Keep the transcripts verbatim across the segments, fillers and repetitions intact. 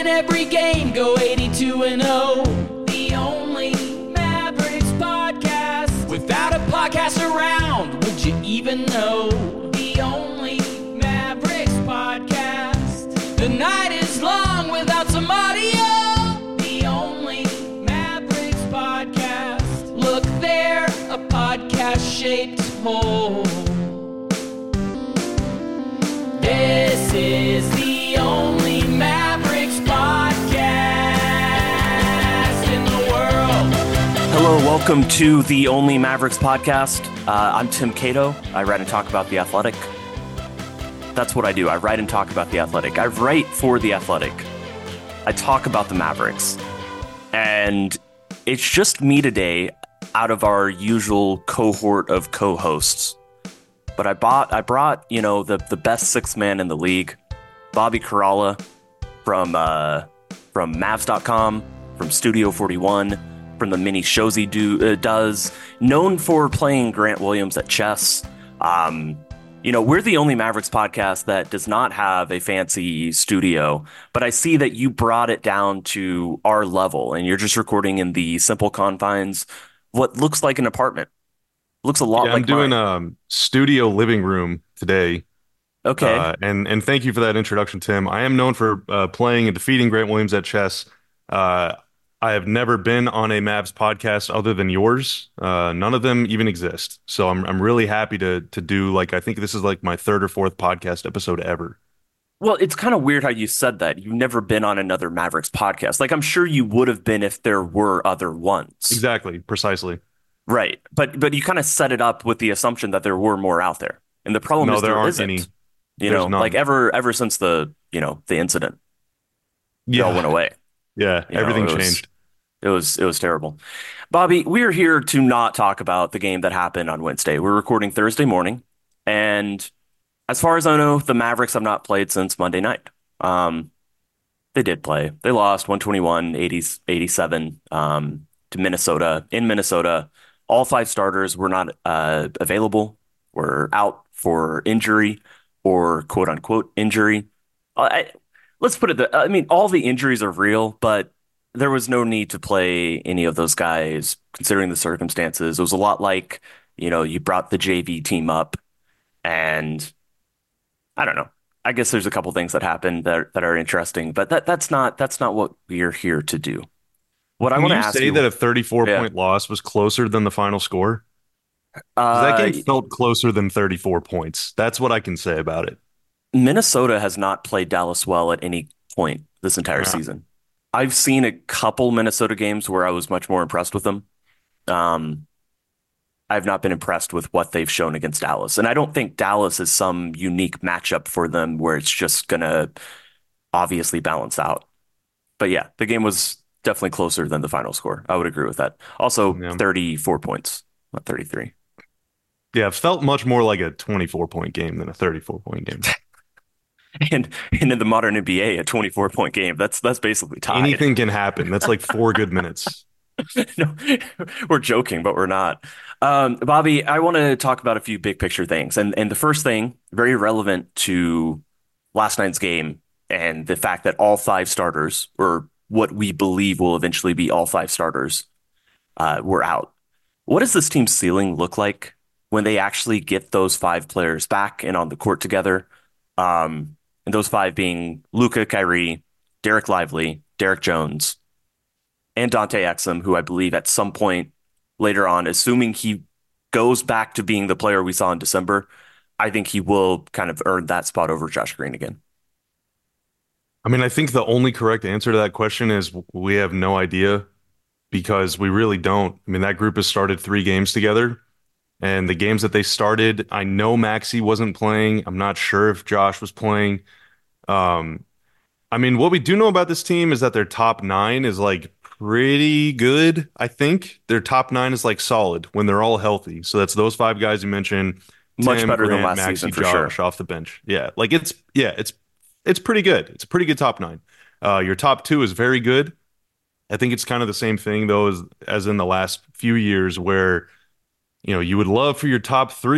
win every game, go eighty-two and oh. The only Mavericks podcast. Without a podcast around, would you even know? The only Mavericks podcast. The night is long without some audio. The only Mavericks podcast. Look there, a podcast-shaped hole. This is the only Mavericks podcast in the world. Hello, welcome to the Only Mavericks podcast. Uh, I'm Tim Cato. I write and talk about The Athletic. That's what I do. I write and talk about The Athletic. I write for The Athletic. I talk about the Mavericks. And it's just me today out of our usual cohort of co-hosts. But I bought, I brought, you know, the, the best sixth man in the league, Bobby Karalla from uh, from Mavs dot com, from Studio forty-one, from the mini shows he do uh, does, known for playing Grant Williams at chess. Um, you know, we're the only Mavericks podcast that does not have a fancy studio, but I see that you brought it down to our level, and you're just recording in the simple confines of what looks like an apartment. Looks a lot yeah, like I'm doing mine. a um, studio living room today. Okay. Uh, and, and thank you for that introduction, Tim. I am known for uh, playing and defeating Grant Williams at chess. Uh, I have never been on a Mavs podcast other than yours. Uh, none of them even exist. So I'm I'm really happy to to do, like, I think this is like my third or fourth podcast episode ever. Well, it's kind of weird how you said that. You've never been on another Mavericks podcast. Like, I'm sure you would have been if there were other ones. Exactly, precisely. Right. But but you kind of set it up with the assumption that there were more out there. And the problem No, is there there aren't isn't. any. You There's know, none. like ever ever since the, you know, the incident. It all went away. Yeah, You know, everything it was- changed. It was it was terrible. Bobby, we're here to not talk about the game that happened on Wednesday. We're recording Thursday morning, and as far as I know, the Mavericks have not played since Monday night. Um, they did play. They lost one twenty-one eighty-seven um, to Minnesota. In Minnesota, all five starters were not uh, available, were out for injury or quote unquote injury. I, let's put it that, I mean, all the injuries are real, but there was no need to play any of those guys considering the circumstances. It was a lot like, you know, you brought the J V team up, and I don't know. I guess there's a couple things that happened that that are interesting, but that that's not that's not what we're here to do. What I Can want to you ask say you, that a thirty-four Yeah. point loss was closer than the final score? 'Cause uh, that game felt closer than thirty-four points. That's what I can say about it. Minnesota has not played Dallas well at any point this entire Yeah. season. I've seen a couple Minnesota games where I was much more impressed with them. Um, I've not been impressed with what they've shown against Dallas. And I don't think Dallas is some unique matchup for them where it's just going to obviously balance out. But yeah, the game was definitely closer than the final score. I would agree with that. Also, Yeah. thirty-four points, not thirty-three. Yeah, it felt much more like a twenty-four point game than a thirty-four point game. And and in the modern N B A, a twenty-four point game, that's that's basically tied. Anything can happen. That's like four good minutes. No, we're joking, but we're not. Um, Bobby, I want to talk about a few big picture things. And and the first thing, very relevant to last night's game and the fact that all five starters, or what we believe will eventually be all five starters, uh, were out. What does this team's ceiling look like when they actually get those five players back and on the court together? Um, and those five being Luka, Kyrie, Derek Lively, Derek Jones, and Dante Exum, who I believe at some point later on, assuming he goes back to being the player we saw in December, I think he will kind of earn that spot over Josh Green again. I mean, I think the only correct answer to that question is we have no idea, because we really don't. I mean, that group has started three games together, and the games that they started, I know Maxey wasn't playing. I'm not sure if Josh was playing. Um, I mean, what we do know about this team is that their top nine is like pretty good. I think their top nine is like solid when they're all healthy. So that's those five guys you mentioned. Much Tim, better than Grant, last Maxey, season, for Josh sure. off the bench. Yeah, like it's yeah, it's it's pretty good. It's a pretty good top nine. Uh, your top two is very good. I think it's kind of the same thing though as as in the last few years where, you know, you would love for your top three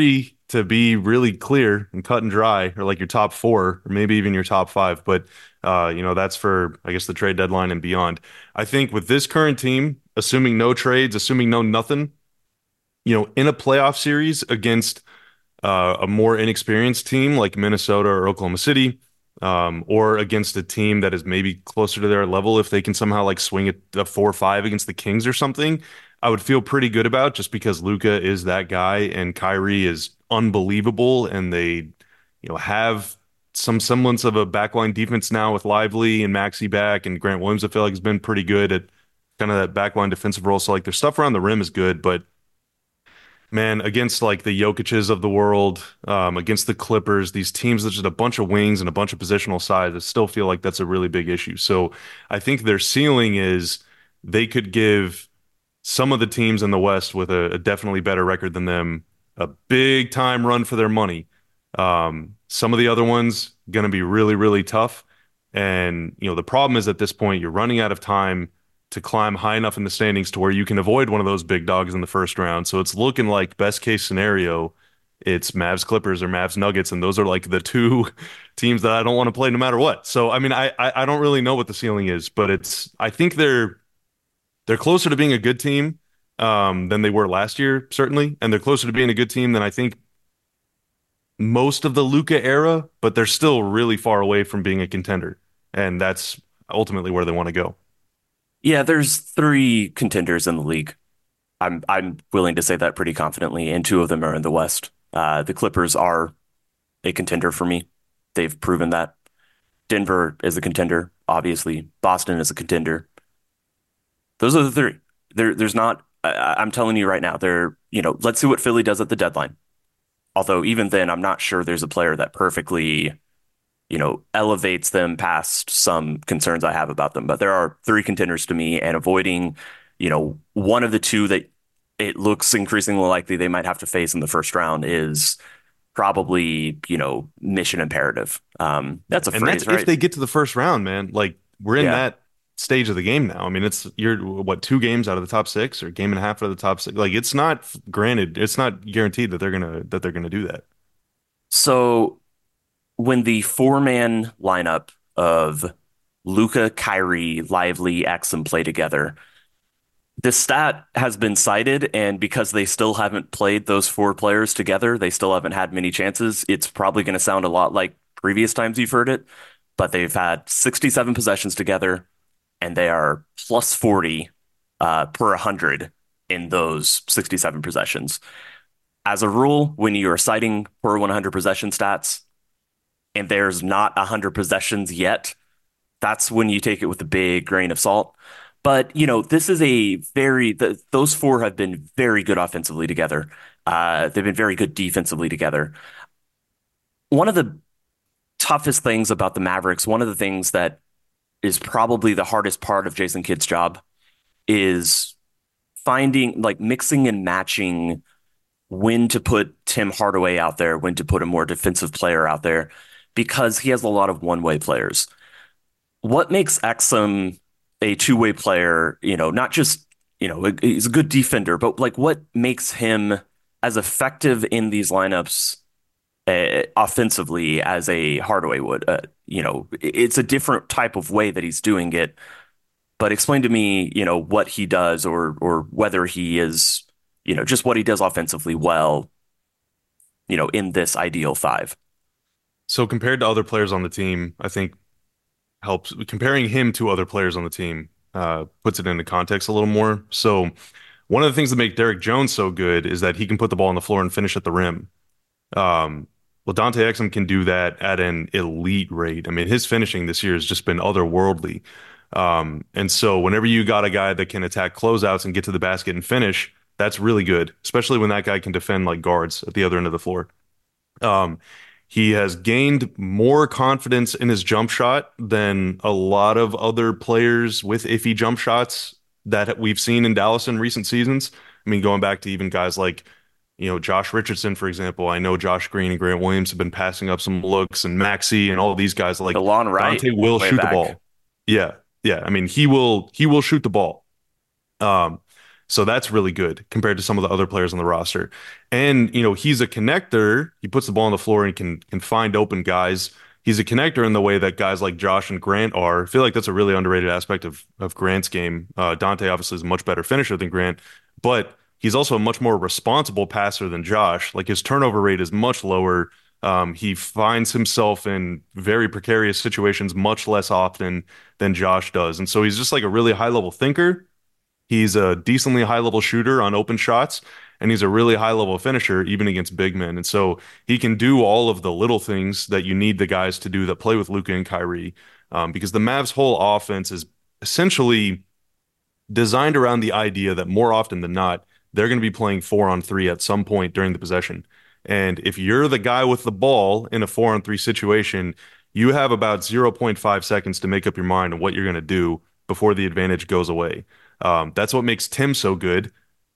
to be really clear and cut and dry, or like your top four, or maybe even your top five. But uh, you know, that's for I guess the trade deadline and beyond. I think with this current team, assuming no trades, assuming no nothing, you know, in a playoff series against uh, a more inexperienced team like Minnesota or Oklahoma City, um, or against a team that is maybe closer to their level, if they can somehow like swing it a four five against the Kings or something, I would feel pretty good about, just because Luka is that guy and Kyrie is unbelievable, and they, you know, have some semblance of a backline defense now with Lively and Maxey back, and Grant Williams I feel like has been pretty good at kind of that backline defensive role. So like their stuff around the rim is good, but man, against like the Jokic's of the world, um, against the Clippers, these teams that's just a bunch of wings and a bunch of positional size, I still feel like that's a really big issue. So I think their ceiling is they could give some of the teams in the West with a, a definitely better record than them a big time run for their money. Um, some of the other ones going to be really, really tough. And, you know, the problem is at this point, you're running out of time to climb high enough in the standings to where you can avoid one of those big dogs in the first round. So it's looking like best case scenario, it's Mavs Clippers or Mavs Nuggets, and those are like the two teams that I don't want to play no matter what. So I mean, I I don't really know what the ceiling is, but it's I think they're they're closer to being a good team um, than they were last year, certainly, and they're closer to being a good team than I think most of the Luka era, but they're still really far away from being a contender, and that's ultimately where they want to go. Yeah, there's three contenders in the league. I'm I'm willing to say that pretty confidently, and two of them are in the West. Uh, the Clippers are a contender for me. They've proven that. Denver is a contender, obviously. Boston is a contender. Those are the three. There, there's not. I, I'm telling you right now. There, you know, let's see what Philly does at the deadline. Although even then, I'm not sure there's a player that perfectly, you know, elevates them past some concerns I have about them. But there are three contenders to me, and avoiding, you know, one of the two that it looks increasingly likely they might have to face in the first round is probably, you know, mission imperative. Um, that's a And phrase, that's right? if they get to the first round, man. Like we're in Yeah. that stage of the game now. I mean, it's you're what two games out of the top six or a game and a half out of the top six. Like it's not granted, it's not guaranteed that they're gonna that they're gonna do that. So when the four-man lineup of Luka, Kyrie, Lively, Exum play together, the stat has been cited, and because they still haven't played those four players together, they still haven't had many chances. It's probably going to sound a lot like previous times you've heard it, but they've had sixty-seven possessions together, and they are plus forty uh, per one hundred in those sixty-seven possessions. As a rule, when you are citing per one hundred possession stats, and there's not one hundred possessions yet, that's when you take it with a big grain of salt. But, you know, this is a very, the, those four have been very good offensively together. Uh, they've been very good defensively together. One of the toughest things about the Mavericks, one of the things that is probably the hardest part of Jason Kidd's job is finding, like, mixing and matching when to put Tim Hardaway out there, when to put a more defensive player out there, because he has a lot of one-way players. What makes Exum a two-way player, you know, not just, you know, he's a good defender, but like what makes him as effective in these lineups uh, offensively as a Hardaway would? Uh, you know, it's a different type of way that he's doing it. But explain to me, you know, what he does, or or whether he is, you know, just what he does offensively well, you know, in this ideal five. So compared to other players on the team, I think helps comparing him to other players on the team uh, puts it into context a little more. So one of the things that make Derek Jones so good is that he can put the ball on the floor and finish at the rim. Um, well, Dante Exum can do that at an elite rate. I mean, his finishing this year has just been otherworldly. Um, and so whenever you got a guy that can attack closeouts and get to the basket and finish, that's really good, especially when that guy can defend like guards at the other end of the floor. Um, he has gained more confidence in his jump shot than a lot of other players with iffy jump shots that we've seen in Dallas in recent seasons. I mean, going back to even guys like, you know, Josh Richardson, for example. I know Josh Green and Grant Williams have been passing up some looks, and Maxey and all of these guys like DeLon Wright, Dante will way shoot back. the ball. Yeah, yeah. I mean, he will he will shoot the ball. Um, So that's really good compared to some of the other players on the roster. And, you know, he's a connector. He puts the ball on the floor and can can find open guys. He's a connector in the way that guys like Josh and Grant are. I feel like that's a really underrated aspect of of Grant's game. Uh, Dante obviously is a much better finisher than Grant, but he's also a much more responsible passer than Josh. Like his turnover rate is much lower. Um, he finds himself in very precarious situations much less often than Josh does. And so he's just like a really high level thinker. He's a decently high level shooter on open shots, and he's a really high level finisher even against big men. And so he can do all of the little things that you need the guys to do that play with Luka and Kyrie, um, because the Mavs' whole offense is essentially designed around the idea that more often than not, they're going to be playing four on three at some point during the possession. And if you're the guy with the ball in a four on three situation, you have about zero point five seconds to make up your mind on what you're going to do before the advantage goes away. Um, that's what makes Tim so good.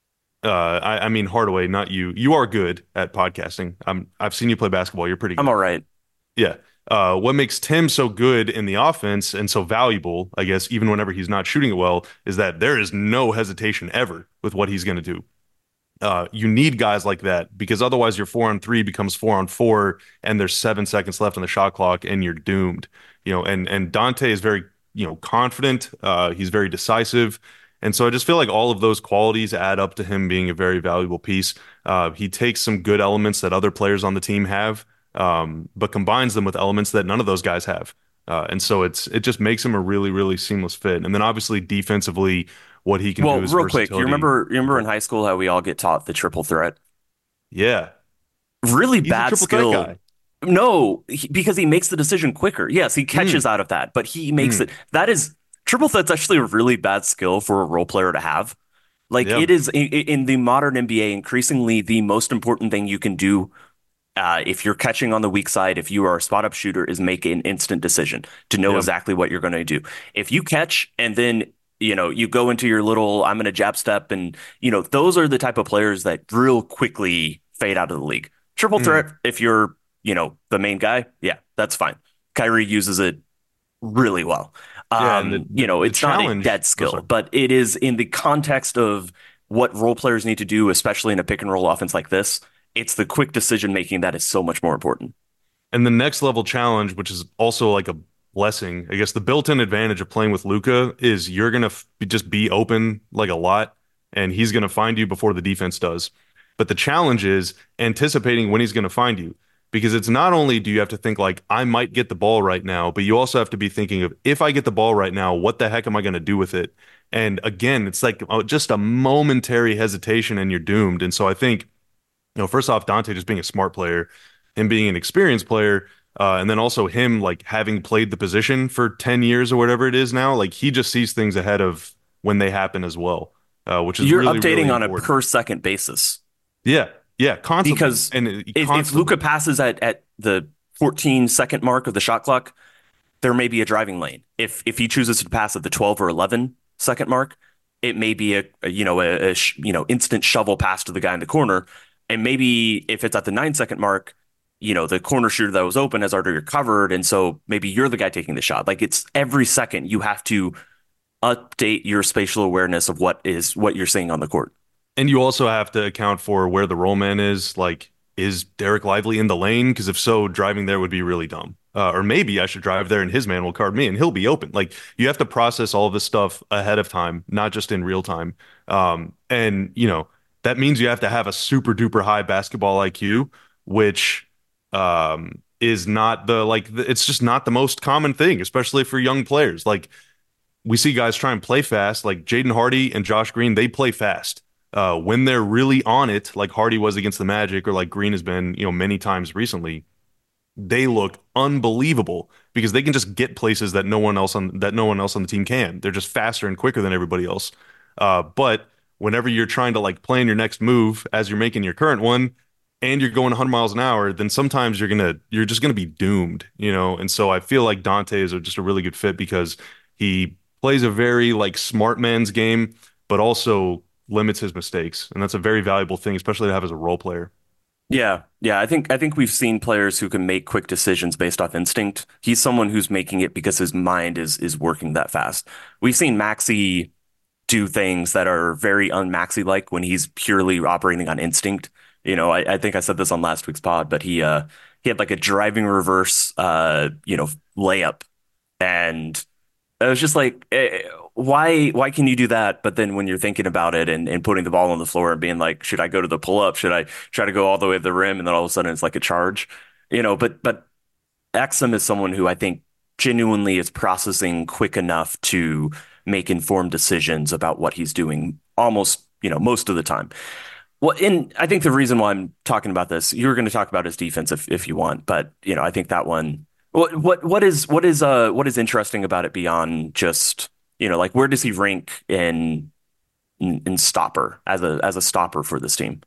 Uh, I, I mean, Hardaway, not you. You are good at podcasting. I'm, I've seen you play basketball. You're pretty good. I'm all right. Yeah. Uh, what makes Tim so good in the offense and so valuable, I guess, even whenever he's not shooting it well, is that there is no hesitation ever with what he's going to do. Uh, you need guys like that because otherwise your four on three becomes four on four and there's seven seconds left on the shot clock and you're doomed. You know, and and Dante is very, you know, confident. Uh, he's very decisive. And so I just feel like all of those qualities add up to him being a very valuable piece. Uh, he takes some good elements that other players on the team have, um, but combines them with elements that none of those guys have. Uh, and so it's it just makes him a really, really seamless fit. And then obviously defensively, what he can Well, do is real quick, you versatility. remember you remember in high school how we all get taught the triple threat? Yeah, Really he's a bad triple threat skill. guy. No, he, because he makes the decision quicker. Yes, he catches Mm, out of that, but he makes mm, it. That is triple threat's actually a really bad skill for a role player to have. Like yeah. it is in, in the modern N B A, increasingly the most important thing you can do uh, if you're catching on the weak side, if you are a spot up shooter, is make an instant decision to know Yeah. exactly what you're going to do. If you catch and then you know you go into your little I'm going to jab step, and you know those are the type of players that real quickly fade out of the league. Triple Mm, threat, if you're you know the main guy, yeah, that's fine. Kyrie uses it really well. yeah. And the, Um, you the know, the it's not a challenge. dead Oh, skill, sorry. but it is in the context of what role players need to do, especially in a pick and roll offense like this. It's the quick decision making that is so much more important. And the next level challenge, which is also like a blessing, I guess the built-in advantage of playing with Luca is you're gonna f just be open like a lot, and he's gonna find you before the defense does. But the challenge is anticipating when he's gonna find you, because it's not only do you have to think like I might get the ball right now, but you also have to be thinking of if I get the ball right now, what the heck am I gonna do with it? And again, it's like uh, just a momentary hesitation and you're doomed. And so I think, you know, first off, Dante just being a smart player, him being an experienced player, uh, and then also him like having played the position for ten years or whatever it is now, like he just sees things ahead of when they happen as well, uh, which is You're really, really updating on a important. per second basis Yeah, yeah, constantly. because And it, if, if Luca constantly. passes at, at the fourteen second mark of the shot clock, there may be a driving lane. If if he chooses to pass at the twelve or eleven second mark, it may be a, a you know a, a sh- you know instant shovel pass to the guy in the corner, and maybe if it's at the nine second mark, you know the corner shooter that was open has already recovered, and so maybe you're the guy taking the shot. Like it's every second you have to update your spatial awareness of what is what you're seeing on the court. And you also have to account for where the roll man is. Like, is Derek Lively in the lane? Because if so, driving there would be really dumb. Uh, or maybe I should drive there and his man will card me and he'll be open. Like, you have to process all of this stuff ahead of time, not just in real time. Um, and, you know, that means you have to have a super duper high basketball I Q, which um, is not the, like, the, it's just not the most common thing, especially for young players. Like, we see guys try and play fast, like Jaden Hardy and Josh Green, they play fast. Uh, when they're really on it, like Hardy was against the Magic, or like Green has been, you know, many times recently, they look unbelievable because they can just get places that no one else on that no one else on the team can. They're just faster and quicker than everybody else. Uh, but whenever you're trying to like plan your next move as you're making your current one, and you're going one hundred miles an hour, then sometimes you're gonna you're just gonna be doomed, you know. And so I feel like Dante is a, just a really good fit because he plays a very like smart man's game, but also limits his mistakes, and that's a very valuable thing, especially to have as a role player. Yeah, yeah. I think I think we've seen players who can make quick decisions based off instinct. He's someone who's making it because his mind is is working that fast. We've seen Maxi do things that are very un-Maxi like when he's purely operating on instinct. You know, I, I think I said this on last week's pod, but he uh he had like a driving reverse uh you know layup, and I was just like, eh, why why can you do that? But then when you're thinking about it and, and putting the ball on the floor and being like, should I go to the pull up? Should I try to go all the way to the rim? And then all of a sudden it's like a charge, you know. But but Exum is someone who I think genuinely is processing quick enough to make informed decisions about what he's doing almost, you know, most of the time. Well, and I think the reason why I'm talking about this, you're going to talk about his defense if, if you want, but you know, I think that one, what what what is what is uh what is interesting about it beyond just, you know, like where does he rank in in, in stopper as a as a stopper for this team?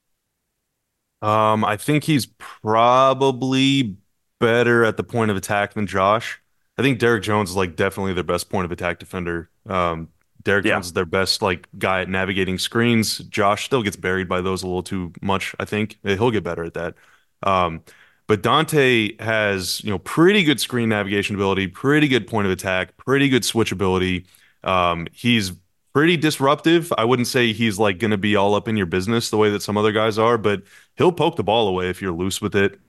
Um, I think he's probably better at the point of attack than Josh. I think Derek Jones is like definitely their best point of attack defender. Um, Derek Yeah, Jones is their best like guy at navigating screens. Josh still gets buried by those a little too much, I think. He'll get better at that. Um, but Dante has, you know, pretty good screen navigation ability, pretty good point of attack, pretty good switch ability. Um, he's pretty disruptive. I wouldn't say he's like going to be all up in your business the way that some other guys are, but he'll poke the ball away if you're loose with it.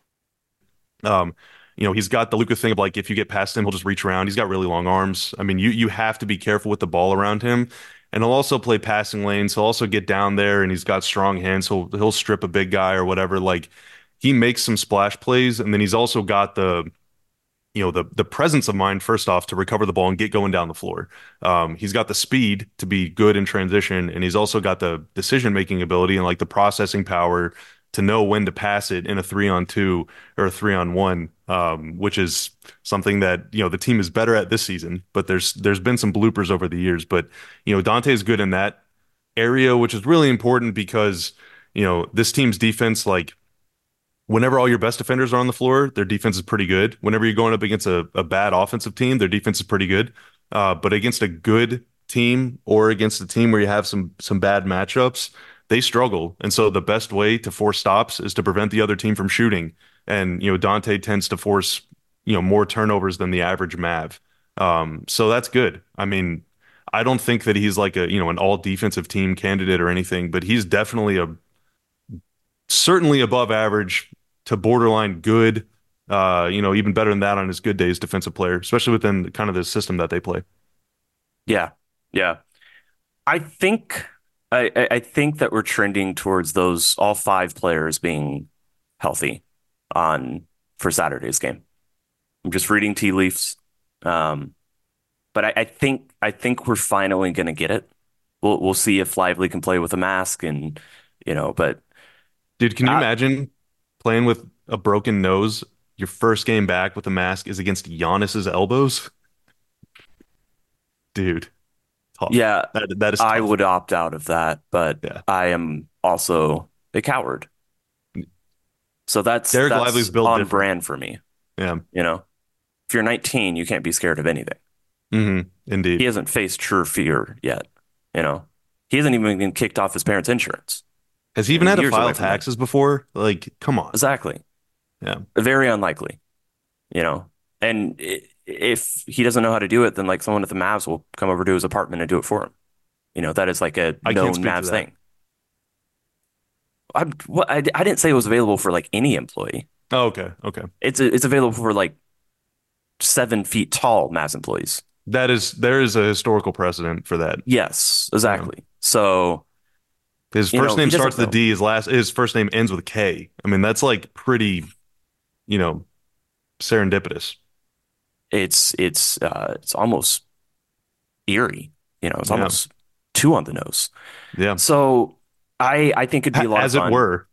Um, you know, he's got the Luka thing of like if you get past him, he'll just reach around. He's got really long arms. I mean, you you have to be careful with the ball around him. And he'll also play passing lanes. He'll also get down there and he's got strong hands. So he'll strip a big guy or whatever. Like he makes some splash plays, and then he's also got the you know the the presence of mind first off to recover the ball and get going down the floor. Um, he's got the speed to be good in transition, and he's also got the decision making ability and like the processing power to know when to pass it in a three on two or a three on one, um, which is something that you know the team is better at this season. But there's there's been some bloopers over the years. But you know Dante is good in that area, which is really important because you know this team's defense like whenever all your best defenders are on the floor, their defense is pretty good. Whenever you're going up against a, a bad offensive team, their defense is pretty good. Uh, but against a good team or against a team where you have some some bad matchups, they struggle. And so the best way to force stops is to prevent the other team from shooting. And you know, Dante tends to force, you know, more turnovers than the average Mav. Um, so that's good. I mean, I don't think that he's like a, you know, an all defensive team candidate or anything, but he's definitely a certainly above average to borderline good. Uh, you know, even better than that on his good days, defensive player, especially within kind of the system that they play. yeah, yeah. I think I I I think that we're trending towards those all five players being healthy on for Saturday's game. I'm just reading tea leaves. Um, but I, I think I think we're finally going to get it. We'll we'll see if Lively can play with a mask, and you know, but Dude, can you uh, imagine playing with a broken nose? Your first game back with a mask is against Giannis's elbows? Dude, tough. yeah, That that is I tough. would opt out of that, but Yeah. I am also a coward. So that's Derek that's Lively's built on different. brand for me, Yeah. you know. If you're nineteen, you can't be scared of anything. Hmm. He Indeed. hasn't faced true fear yet, you know. He hasn't even been kicked off his parents' insurance. Has he You know, even had to years file away from that. taxes before? Like, come on. Exactly. Yeah. Very unlikely, you know. And i- if he doesn't know how to do it, then like someone at the Mavs will come over to his apartment and do it for him. You know, that is like a I can't known speak to Mavs that. thing. I, what, I, I didn't say it was available for like any employee. Oh, okay. Okay. It's it's available for like seven feet tall Mavs employees. That is there is a historical precedent for that. Yes, Yeah. exactly. So, His you first know, he name starts doesn't with a know. D, his last his first name ends with a K. I mean, that's like pretty, you know, serendipitous. It's it's uh it's almost eerie. You know, it's Yeah. almost two on the nose. Yeah. So I I think it'd be Ha- a lot of As it fun. were.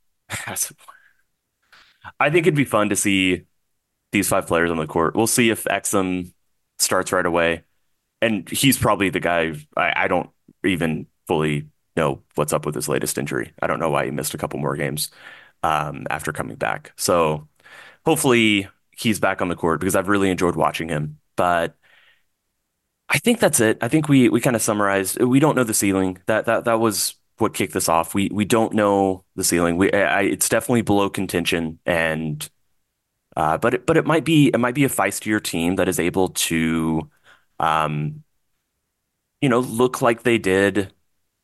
I think it'd be fun to see these five players on the court. We'll see if Exum starts right away. And he's probably the guy I, I don't even fully know what's up with his latest injury. I don't know why he missed a couple more games um, after coming back. So hopefully he's back on the court because I've really enjoyed watching him. But I think that's it. I think we we kind of summarized. We don't know the ceiling. That that that was what kicked this off. We we don't know the ceiling. We I, it's definitely below contention, and uh, but it, but it might be it might be a feistier team that is able to um, you know, look like they did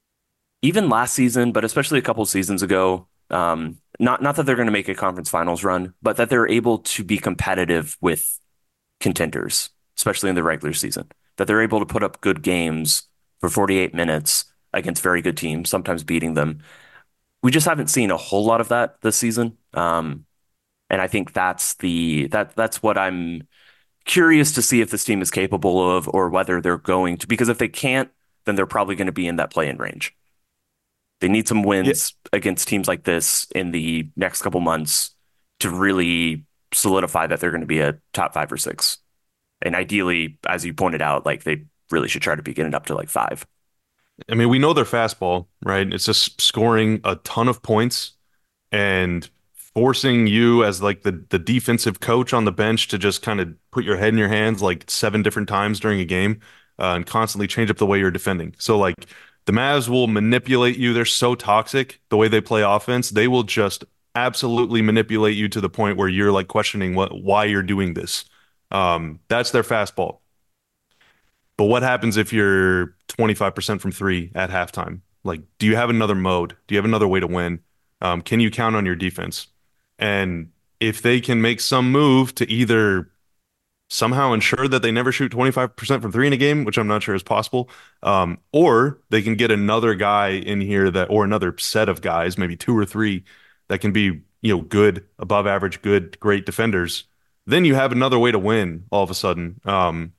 even last season, but especially a couple seasons ago. Um, not not that they're going to make a conference finals run, but that they're able to be competitive with contenders, especially in the regular season. That they're able to put up good games for forty-eight minutes against very good teams, sometimes beating them. We just haven't seen a whole lot of that this season. Um, and I think that's the that that's what I'm curious to see if this team is capable of, or whether they're going to, because if they can't, then they're probably going to be in that play-in range. They need some Yeah, wins against teams like this in the next couple months to really solidify that they're going to be a top five or six. And ideally, as you pointed out, like they really should try to be getting up to like five. I mean, we know their fastball, right? It's just scoring a ton of points and forcing you as like the the defensive coach on the bench to just kind of put your head in your hands like seven different times during a game, uh, and constantly change up the way you're defending. So like the Mavs will manipulate you. They're so toxic the way they play offense. They will just absolutely manipulate you to the point where you're like questioning what why you're doing this. Um, that's their fastball. But what happens if you're twenty-five percent from three at halftime? Like, do you have another mode? Do you have another way to win? Um, can you count on your defense? And if they can make some move to either somehow ensure that they never shoot twenty-five percent from three in a game, which I'm not sure is possible, um, or they can get another guy in here that, or another set of guys, maybe two or three, that can be, you know, good, above average, good, great defenders, then you have another way to win all of a sudden. Um,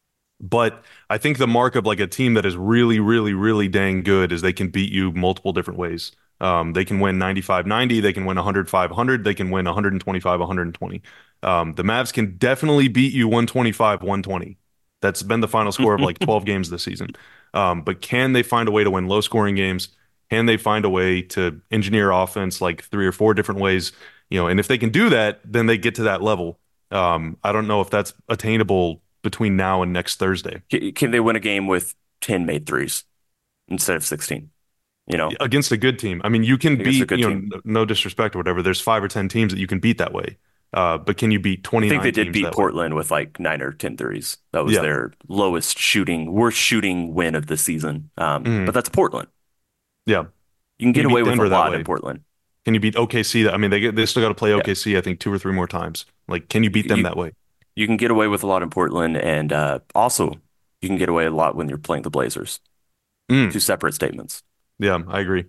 but I think the mark of like a team that is really, really, really dang good is they can beat you multiple different ways. Um, they can win ninety-five ninety, they can win one hundred five hundred, they can win one twenty-five one twenty. Um, the Mavs can definitely beat you one twenty-five one twenty. That's been the final score of like twelve games this season. Um, but can they find a way to win low scoring games? Can they find a way to engineer offense like three or four different ways? You know, and if they can do that, then they get to that level. Um, I don't know if that's attainable between now and next Thursday Can they win a game with ten made threes instead of sixteen? You know, against a good team. I mean, you can against a beat, good you know, team. n- no disrespect or whatever. There's five or ten teams that you can beat that way. Uh, but can you beat I think they twenty-nine did teams beat that way? Portland with like nine or ten threes. That was Yeah. their lowest shooting, worst shooting win of the season. Um, but Mhm. that's Portland. Yeah. You can Can get you away beat with a Denver that lot in way? Portland. Can you beat O K C? That I mean, they get, they still got to play Yeah. O K C, I think, two or three more times. Like, can you beat them You that way? you can get away with a lot in Portland, and uh, also you can get away a lot when you're playing the Blazers. Mm. Two separate statements. Yeah, I agree.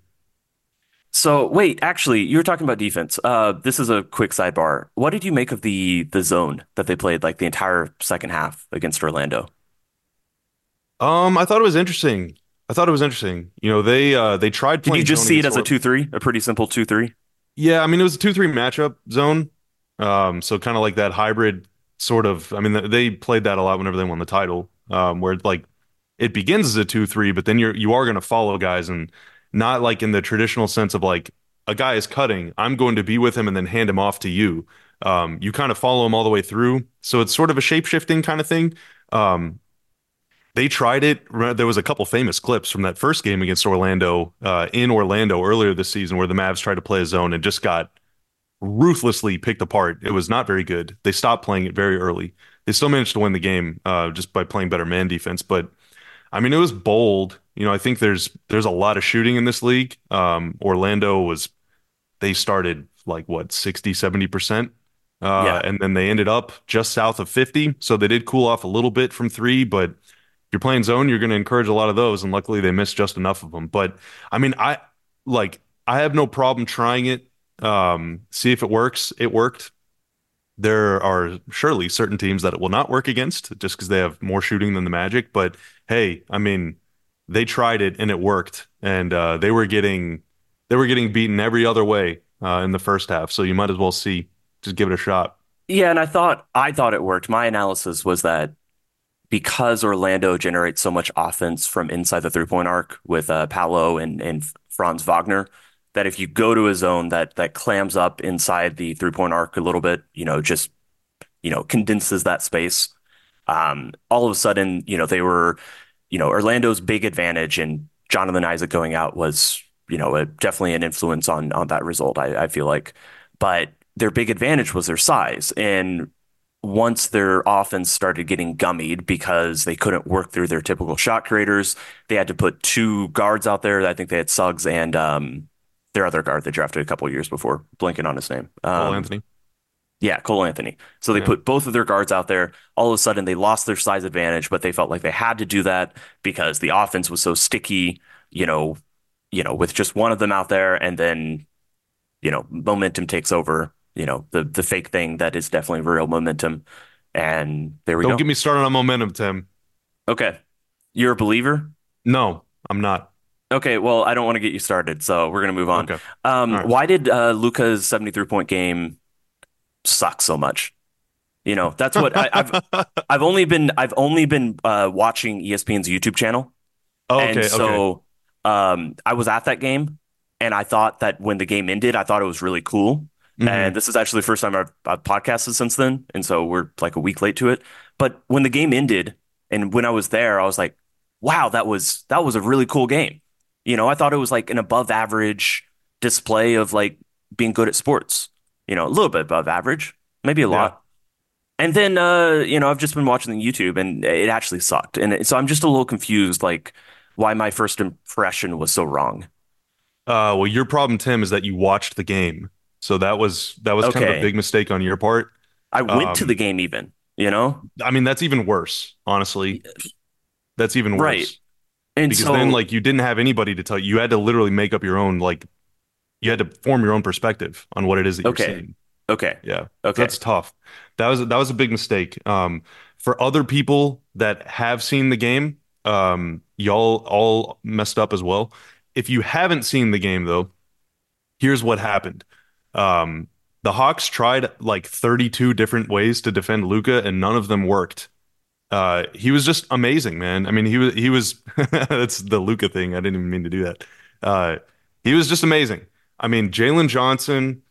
So wait, actually, you were talking about defense. Uh, this is a quick sidebar. What did you make of the the zone that they played like the entire second half against Orlando? Um, I thought it was interesting. I thought it was interesting. You know, they uh they tried Did you playing just zone see it against as a Or two three, a pretty simple two three? Yeah, I mean, it was a two three matchup zone. Um, so kind of like that hybrid sort of. I mean, th- they played that a lot whenever they won the title, um, where like it begins as a two three, but then you're you are going to follow guys and not like in the traditional sense of like a guy is cutting, I'm going to be with him and then hand him off to you. Um, you kind of follow him all the way through. So it's sort of a shape-shifting kind of thing. Um, they tried it. There was a couple famous clips from that first game against Orlando, uh, in Orlando earlier this season where the Mavs tried to play a zone and just got ruthlessly picked apart. It was not very good. They stopped playing it very early. They still managed to win the game, uh, just by playing better man defense. But I mean, it was bold. You know, I think there's there's a lot of shooting in this league. Um, Orlando was they started like what sixty, seventy percent. Uh, Yeah. and then they ended up just south of fifty. So they did cool off a little bit from three, but if you're playing zone, you're going to encourage a lot of those. And luckily they missed just enough of them. But I mean, I like I have no problem trying it. Um, see if it works. It worked. There are surely certain teams that it will not work against just because they have more shooting than the Magic. But hey, I mean, they tried it and it worked, and uh, they were getting they were getting beaten every other way uh, in the first half. So you might as well see, just give it a shot. Yeah, and I thought I thought it worked. My analysis was that because Orlando generates so much offense from inside the three-point arc with uh, Paolo and, and Franz Wagner, that if you go to a zone that that clams up inside the three-point arc a little bit, you know, just you know condenses that space. Um, all of a sudden, you know, they were, you know, Orlando's big advantage and Jonathan Isaac going out was, you know, a, definitely an influence on on that result. I, I feel like, but their big advantage was their size, and once their offense started getting gummied because they couldn't work through their typical shot creators, they had to put two guards out there. I think they had Suggs and um, their other guard they drafted a couple years before, blinking on his name. Cole Um, Anthony. yeah, Cole Anthony. So they Yeah. put both of their guards out there. All of a sudden, they lost their size advantage, but they felt like they had to do that because the offense was so sticky, you know, you know, with just one of them out there, and then, you know, momentum takes over, you know, the the fake thing that is definitely real momentum. And there we Don't go. get me started on momentum, Tim. Okay. You're a believer? No, I'm not. Okay, well, I don't want to get you started, so we're gonna move on. Okay. Um, All right. why did uh, Luca's seventy-three point game suck so much? You know, that's what I, I've I've only been I've only been uh, watching E S P N's YouTube channel, and Okay, okay. so um, I was at that game, and I thought that when the game ended, I thought it was really cool. And hmm this is actually the first time I've, I've podcasted since then, and so we're like a week late to it. But when the game ended, and when I was there, I was like, "Wow, that was that was a really cool game." You know, I thought it was like an above average display of like being good at sports. You know, a little bit above average, maybe a Yeah. lot. And then, uh, you know, I've just been watching the YouTube and it actually sucked. And it- so I'm just a little confused, like why my first impression was so wrong. Uh, well, your problem, Tim, is that you watched the game. So that was that was kind of a Okay. big mistake on your part. I went to the Um, game even, you know? I mean, that's even worse, honestly. That's even Right. worse And because then, so, like, you didn't have anybody to tell you. You had to literally make up your own, like, you had to form your own perspective on what it is that you're okay. seeing. Okay. Yeah, Okay. that's tough. That was that was a big mistake. Um, for other people that have seen the game, um, y'all all messed up as well. If you haven't seen the game though, here's what happened. Um, the Hawks tried like thirty-two different ways to defend Luca, and none of them worked. Uh, he was just amazing, man. I mean, he was he was that's the Luca thing. I didn't even mean to do that. Uh, he was just amazing. I mean, Jalen Johnson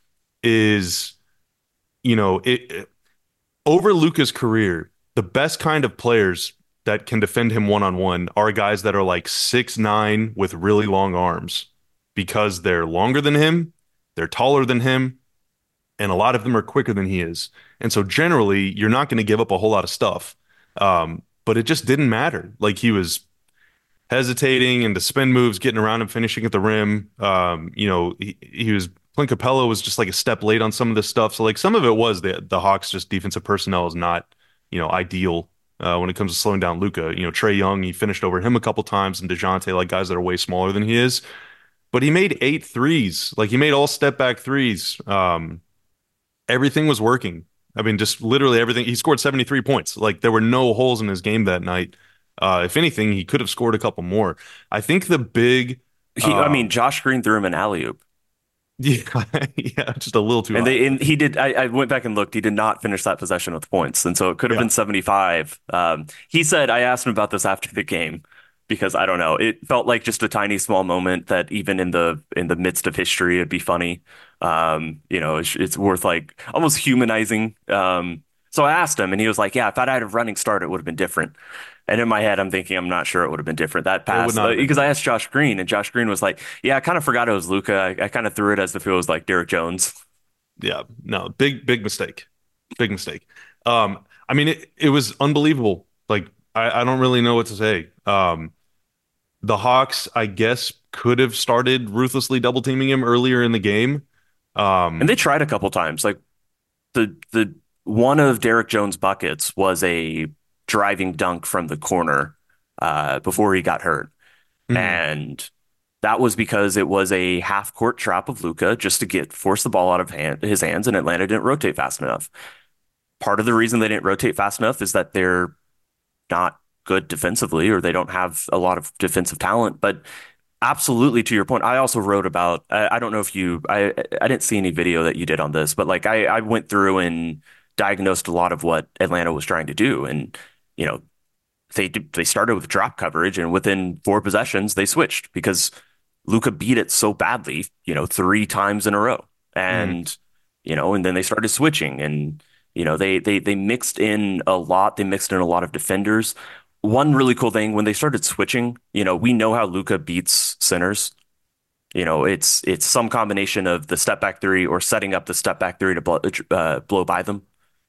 is, you know, it, over Luca's career, the best kind of players that can defend him one on one are guys that are like six nine with really long arms because they're longer than him, they're taller than him, and a lot of them are quicker than he is. And so generally, you're not going to give up a whole lot of stuff. Um, but it just didn't matter. Like he was hesitating and the spin moves, getting around and finishing at the rim. Um, you know, he, he was Clint Capella was just like a step late on some of this stuff. So like some of it was the the Hawks just defensive personnel is not, you know, ideal uh, when it comes to slowing down Luca. You know, Trey Young, he finished over him a couple times, and DeJounte, like guys that are way smaller than he is. But he made eight threes. Like he made all step back threes. Um, everything was working. I mean, just literally everything. He scored seventy-three points. Like there were no holes in his game that night. Uh, if anything, he could have scored a couple more. I think the big, he, I mean, um, Josh Green threw him an alley-oop. yeah, yeah, just a little too And high. they and he did. I, I went back and looked. He did not finish that possession with points, and so it could have Yeah. been seventy-five. Um, he said, I asked him about this after the game because I don't know. It felt like just a tiny, small moment that even in the in the midst of history, it'd be funny. Um, you know, it's, it's worth like almost humanizing. Um, so I asked him, and he was like, "Yeah, if I'd had a running start, it would have been different." And in my head, I'm thinking, I'm not sure it would have been different. That It would pass, not uh, have been. because I asked Josh Green, and Josh Green was like, "Yeah, I kind of forgot it was Luca. I, I kind of threw it as if it was like Derek Jones." Yeah, no, big, big mistake. Big mistake. Um, I mean, it, it was unbelievable. Like, I, I don't really know what to say. Um, the Hawks, I guess, could have started ruthlessly double teaming him earlier in the game. And they Um, tried a couple times. Like the the one of Derek Jones' buckets was a driving dunk from the corner uh, before he got hurt, mhm, and that was because it was a half court trap of Luca just to get force the ball out of hand, his hands, and Atlanta didn't rotate fast enough. Part of the reason they didn't rotate fast enough is that they're not good defensively, or they don't have a lot of defensive talent. But absolutely, to your point, I also wrote about. I, I don't know if you. I I didn't see any video that you did on this, but like I I went through and diagnosed a lot of what Atlanta was trying to do, and you know they they started with drop coverage, and within four possessions they switched because Luca beat it so badly, you know, three times in a row, mhm, and you know, and then they started switching, and you know they they they mixed in a lot. They mixed in a lot of defenders. One really cool thing when they started switching, you know, we know how Luca beats centers. You know, it's it's some combination of the step back three or setting up the step back three to blow, uh, blow by them.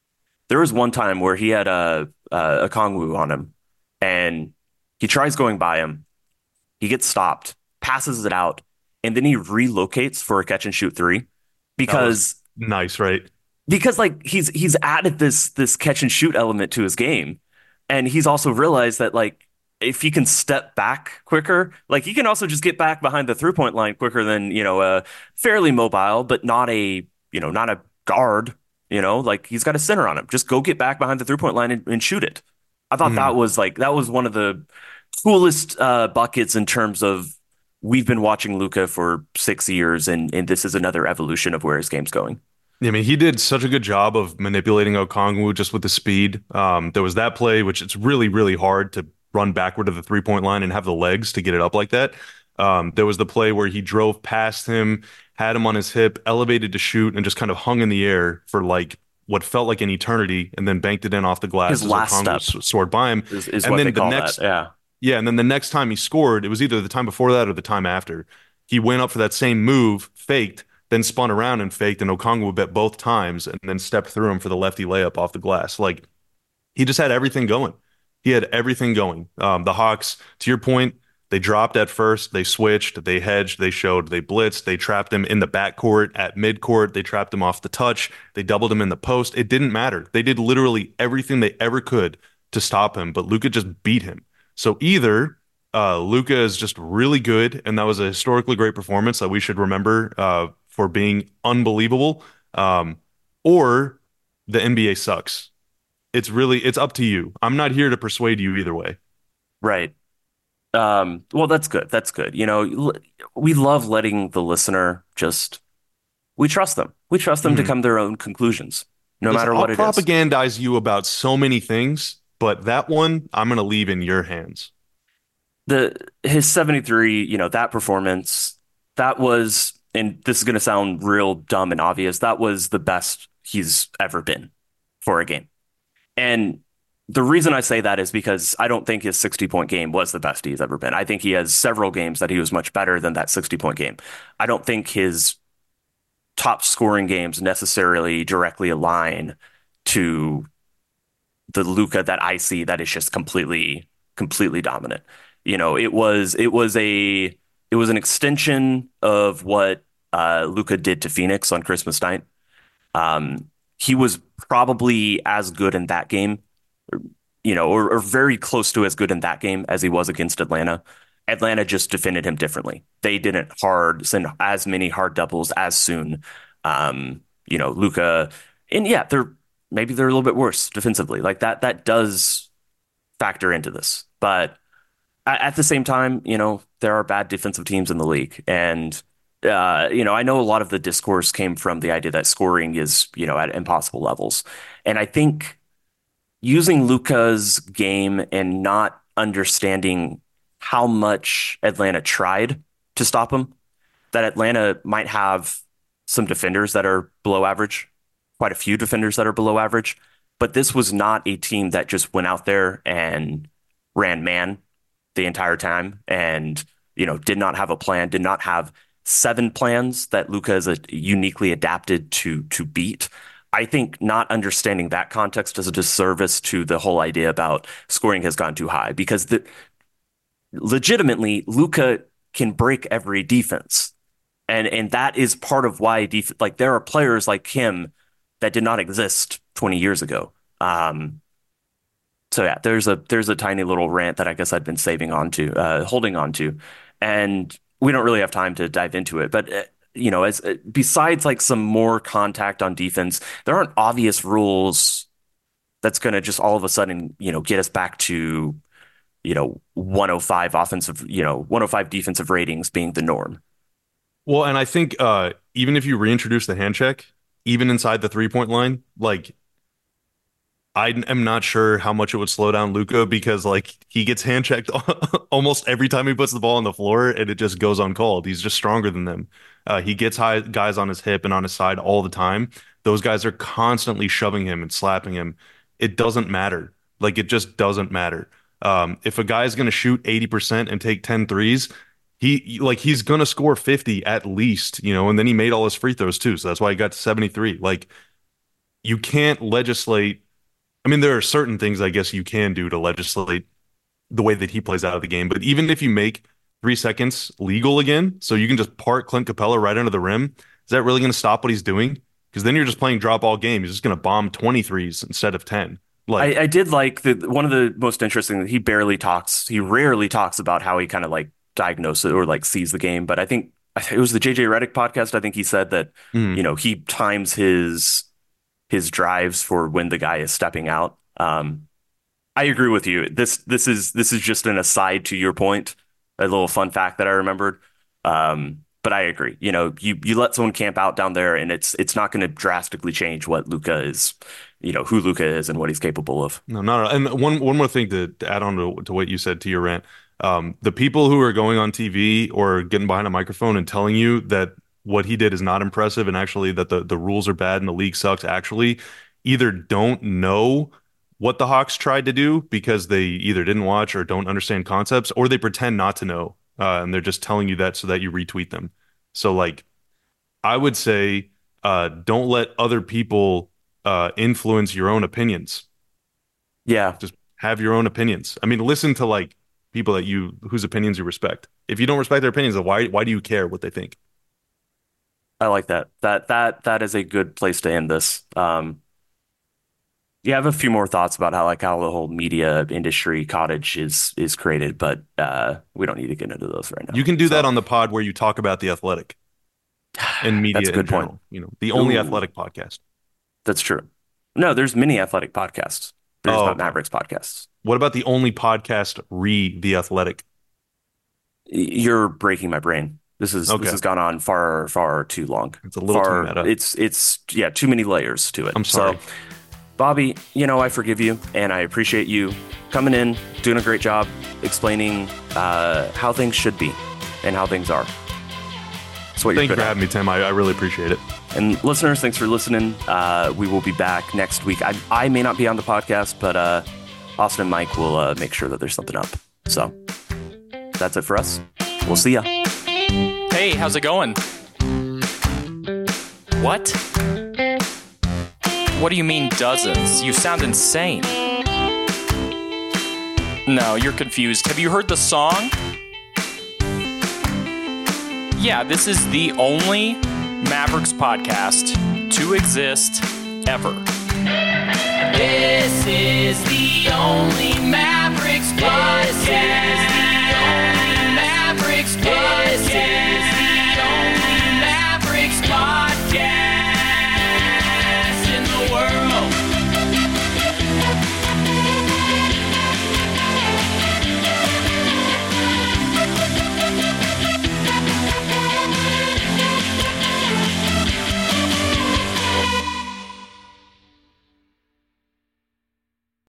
There was one time where he had a a, a Kongwu on him, and he tries going by him. He gets stopped, passes it out, and then he relocates for a catch and shoot three That was because nice, right? because like he's he's added this this catch and shoot element to his game, and he's also realized that like if he can step back quicker, like he can also just get back behind the three point line quicker than you know a fairly mobile but not a you know not a guard. You know, like he's got a center on him. Just go get back behind the three point line and, and shoot it. I thought Mhm. that was like that was one of the coolest uh, buckets in terms of we've been watching Luka for six years, and and this is another evolution of where his game's going. Yeah, I mean, he did such a good job of manipulating Okongwu just with the speed. Um, there was that play, which it's really, really hard to run backward to the three point line and have the legs to get it up like that. Um, there was the play where he drove past him, had him on his hip, elevated to shoot, and just kind of hung in the air for like what felt like an eternity, and then banked it in off the His glass as last Okongwu step s- soared by him. is is And what they then the call that. next, Yeah. yeah, and then the next time he scored, it was either the time before that or the time after. He went up for that same move, faked, then spun around and faked, and Okongwu bet both times, and then stepped through him for the lefty layup off the glass. Like he just had everything going. He had everything going. Um, the Hawks, to your point, they dropped at first, they switched, they hedged, they showed, they blitzed, they trapped him in the backcourt, at midcourt, they trapped him off the touch, they doubled him in the post. It didn't matter. They did literally everything they ever could to stop him, but Luka just beat him. So either uh, Luka is just really good, and that was a historically great performance that we should remember uh, for being unbelievable, um, or the N B A sucks. It's really it's up to you. I'm not here to persuade you either way. Right. Um, well, that's good. That's good. You know, l- we love letting the listener just we trust them. We trust them to Mhm. come to their own conclusions, no Listen, matter I'll what it is. propagandize you about so many things, but that one I'm gonna leave in your hands. The his seventy-three, you know, that performance, that was, and this is going to sound real dumb and obvious, that was the best he's ever been for a game. And the reason I say that is because I don't think his sixty point game was the best he's ever been. I think he has several games that he was much better than that sixty point game. I don't think his top scoring games necessarily directly align to the Luka that I see that is just completely, completely dominant. You know, it was it was a it was an extension of what uh, Luka did to Phoenix on Christmas night. Um, he was probably as good in that game, you know, or, or very close to as good in that game as he was against Atlanta. Atlanta just defended him differently. They didn't hard send as many hard doubles as soon. Um, you know, Luka, and yeah, they're maybe they're a little bit worse defensively. Like that, that does factor into this. But at, at the same time, you know, there are bad defensive teams in the league, and uh, you know, I know a lot of the discourse came from the idea that scoring is, you know, at impossible levels, and I think using Luka's game and not understanding how much Atlanta tried to stop him, that Atlanta might have some defenders that are below average, quite a few defenders that are below average, but this was not a team that just went out there and ran man the entire time and, you know, did not have a plan, did not have seven plans that Luka is a, uniquely adapted to to beat. I think not understanding that context does a disservice to the whole idea about scoring has gone too high because the legitimately Luka can break every defense. And and that is part of why def like there are players like him that did not exist twenty years ago. Um, so yeah, there's a there's a tiny little rant that I guess I'd been saving on to, uh, holding on to, and we don't really have time to dive into it. But uh, you know, as uh, besides like some more contact on defense, there aren't obvious rules that's going to just all of a sudden you know get us back to you know one oh five offensive, you know one oh five defensive ratings being the norm. Well, and I think uh, even if you reintroduce the hand check, even inside the three point line, like I am not sure how much it would slow down Luka because like he gets hand checked almost every time he puts the ball on the floor and it just goes uncalled. He's just stronger than them. Uh, he gets high guys on his hip and on his side all the time. Those guys are constantly shoving him and slapping him. It doesn't matter. Like it just doesn't matter. Um, if a guy's going to shoot eighty percent and take ten threes, he like he's going to score fifty at least, you know, and then he made all his free throws too. So that's why he got to seventy-three. Like you can't legislate I mean, there are certain things I guess you can do to legislate the way that he plays out of the game. But even if you make three seconds legal again, so you can just park Clint Capella right under the rim, is that really going to stop what he's doing? Because then you're just playing drop all game. He's just going to bomb twenty-threes instead of ten. Like, I, I did like the one of the most interesting. He barely talks. He rarely talks about how he kind of like diagnoses or like sees the game. But I think it was the J J Redick podcast. I think he said that mm, you know he times his his drives for when the guy is stepping out. Um, I agree with you. This this is this is just an aside to your point. A little fun fact that I remembered. Um, but I agree. You know, you you let someone camp out down there, and it's it's not going to drastically change what Luka is, you know, who Luka is and what he's capable of. no, not. And one one more thing to, to add on to, to what you said to your rant. Um, the people who are going on T V or getting behind a microphone and telling you that what he did is not impressive and actually that the, the rules are bad and the league sucks actually either don't know what the Hawks tried to do because they either didn't watch or don't understand concepts, or they pretend not to know. Uh, and they're just telling you that so that you retweet them. So like, I would say, uh, don't let other people uh, influence your own opinions. Yeah, Just have your own opinions. I mean, listen to like people that you whose opinions you respect. If you don't respect their opinions, then why why do you care what they think? I like that. That that that is a good place to end this. Um, yeah, I have a few more thoughts about how like how the whole media industry cottage is is created, but uh, we don't need to get into those right now. You can do So, that on the pod where you talk about the Athletic and media That's a good in general. point. You know, the only Ooh. athletic podcast. That's true. No, there's many athletic podcasts. There's Oh, not okay. Mavericks podcasts. What about the only podcast re the Athletic? Y- You're breaking my brain. This is Okay. this has gone on far far too long. It's a little too Far, meta. It's it's yeah, too many layers to it. I'm sorry. So, Bobby, you know I forgive you, and I appreciate you coming in, doing a great job explaining uh, how things should be and how things are. That's what you're Thank you good for at. having me, Tim. I, I really appreciate it. And listeners, thanks for listening. Uh, we will be back next week. I, I may not be on the podcast, but uh, Austin and Mike will uh, make sure that there's something up. So that's it for us. We'll see ya. Hey, how's it going? What? What do you mean dozens? You sound insane. No, you're confused. Have you heard the song? Yeah, this is the only Mavericks podcast to exist ever. This is the only Mavericks podcast.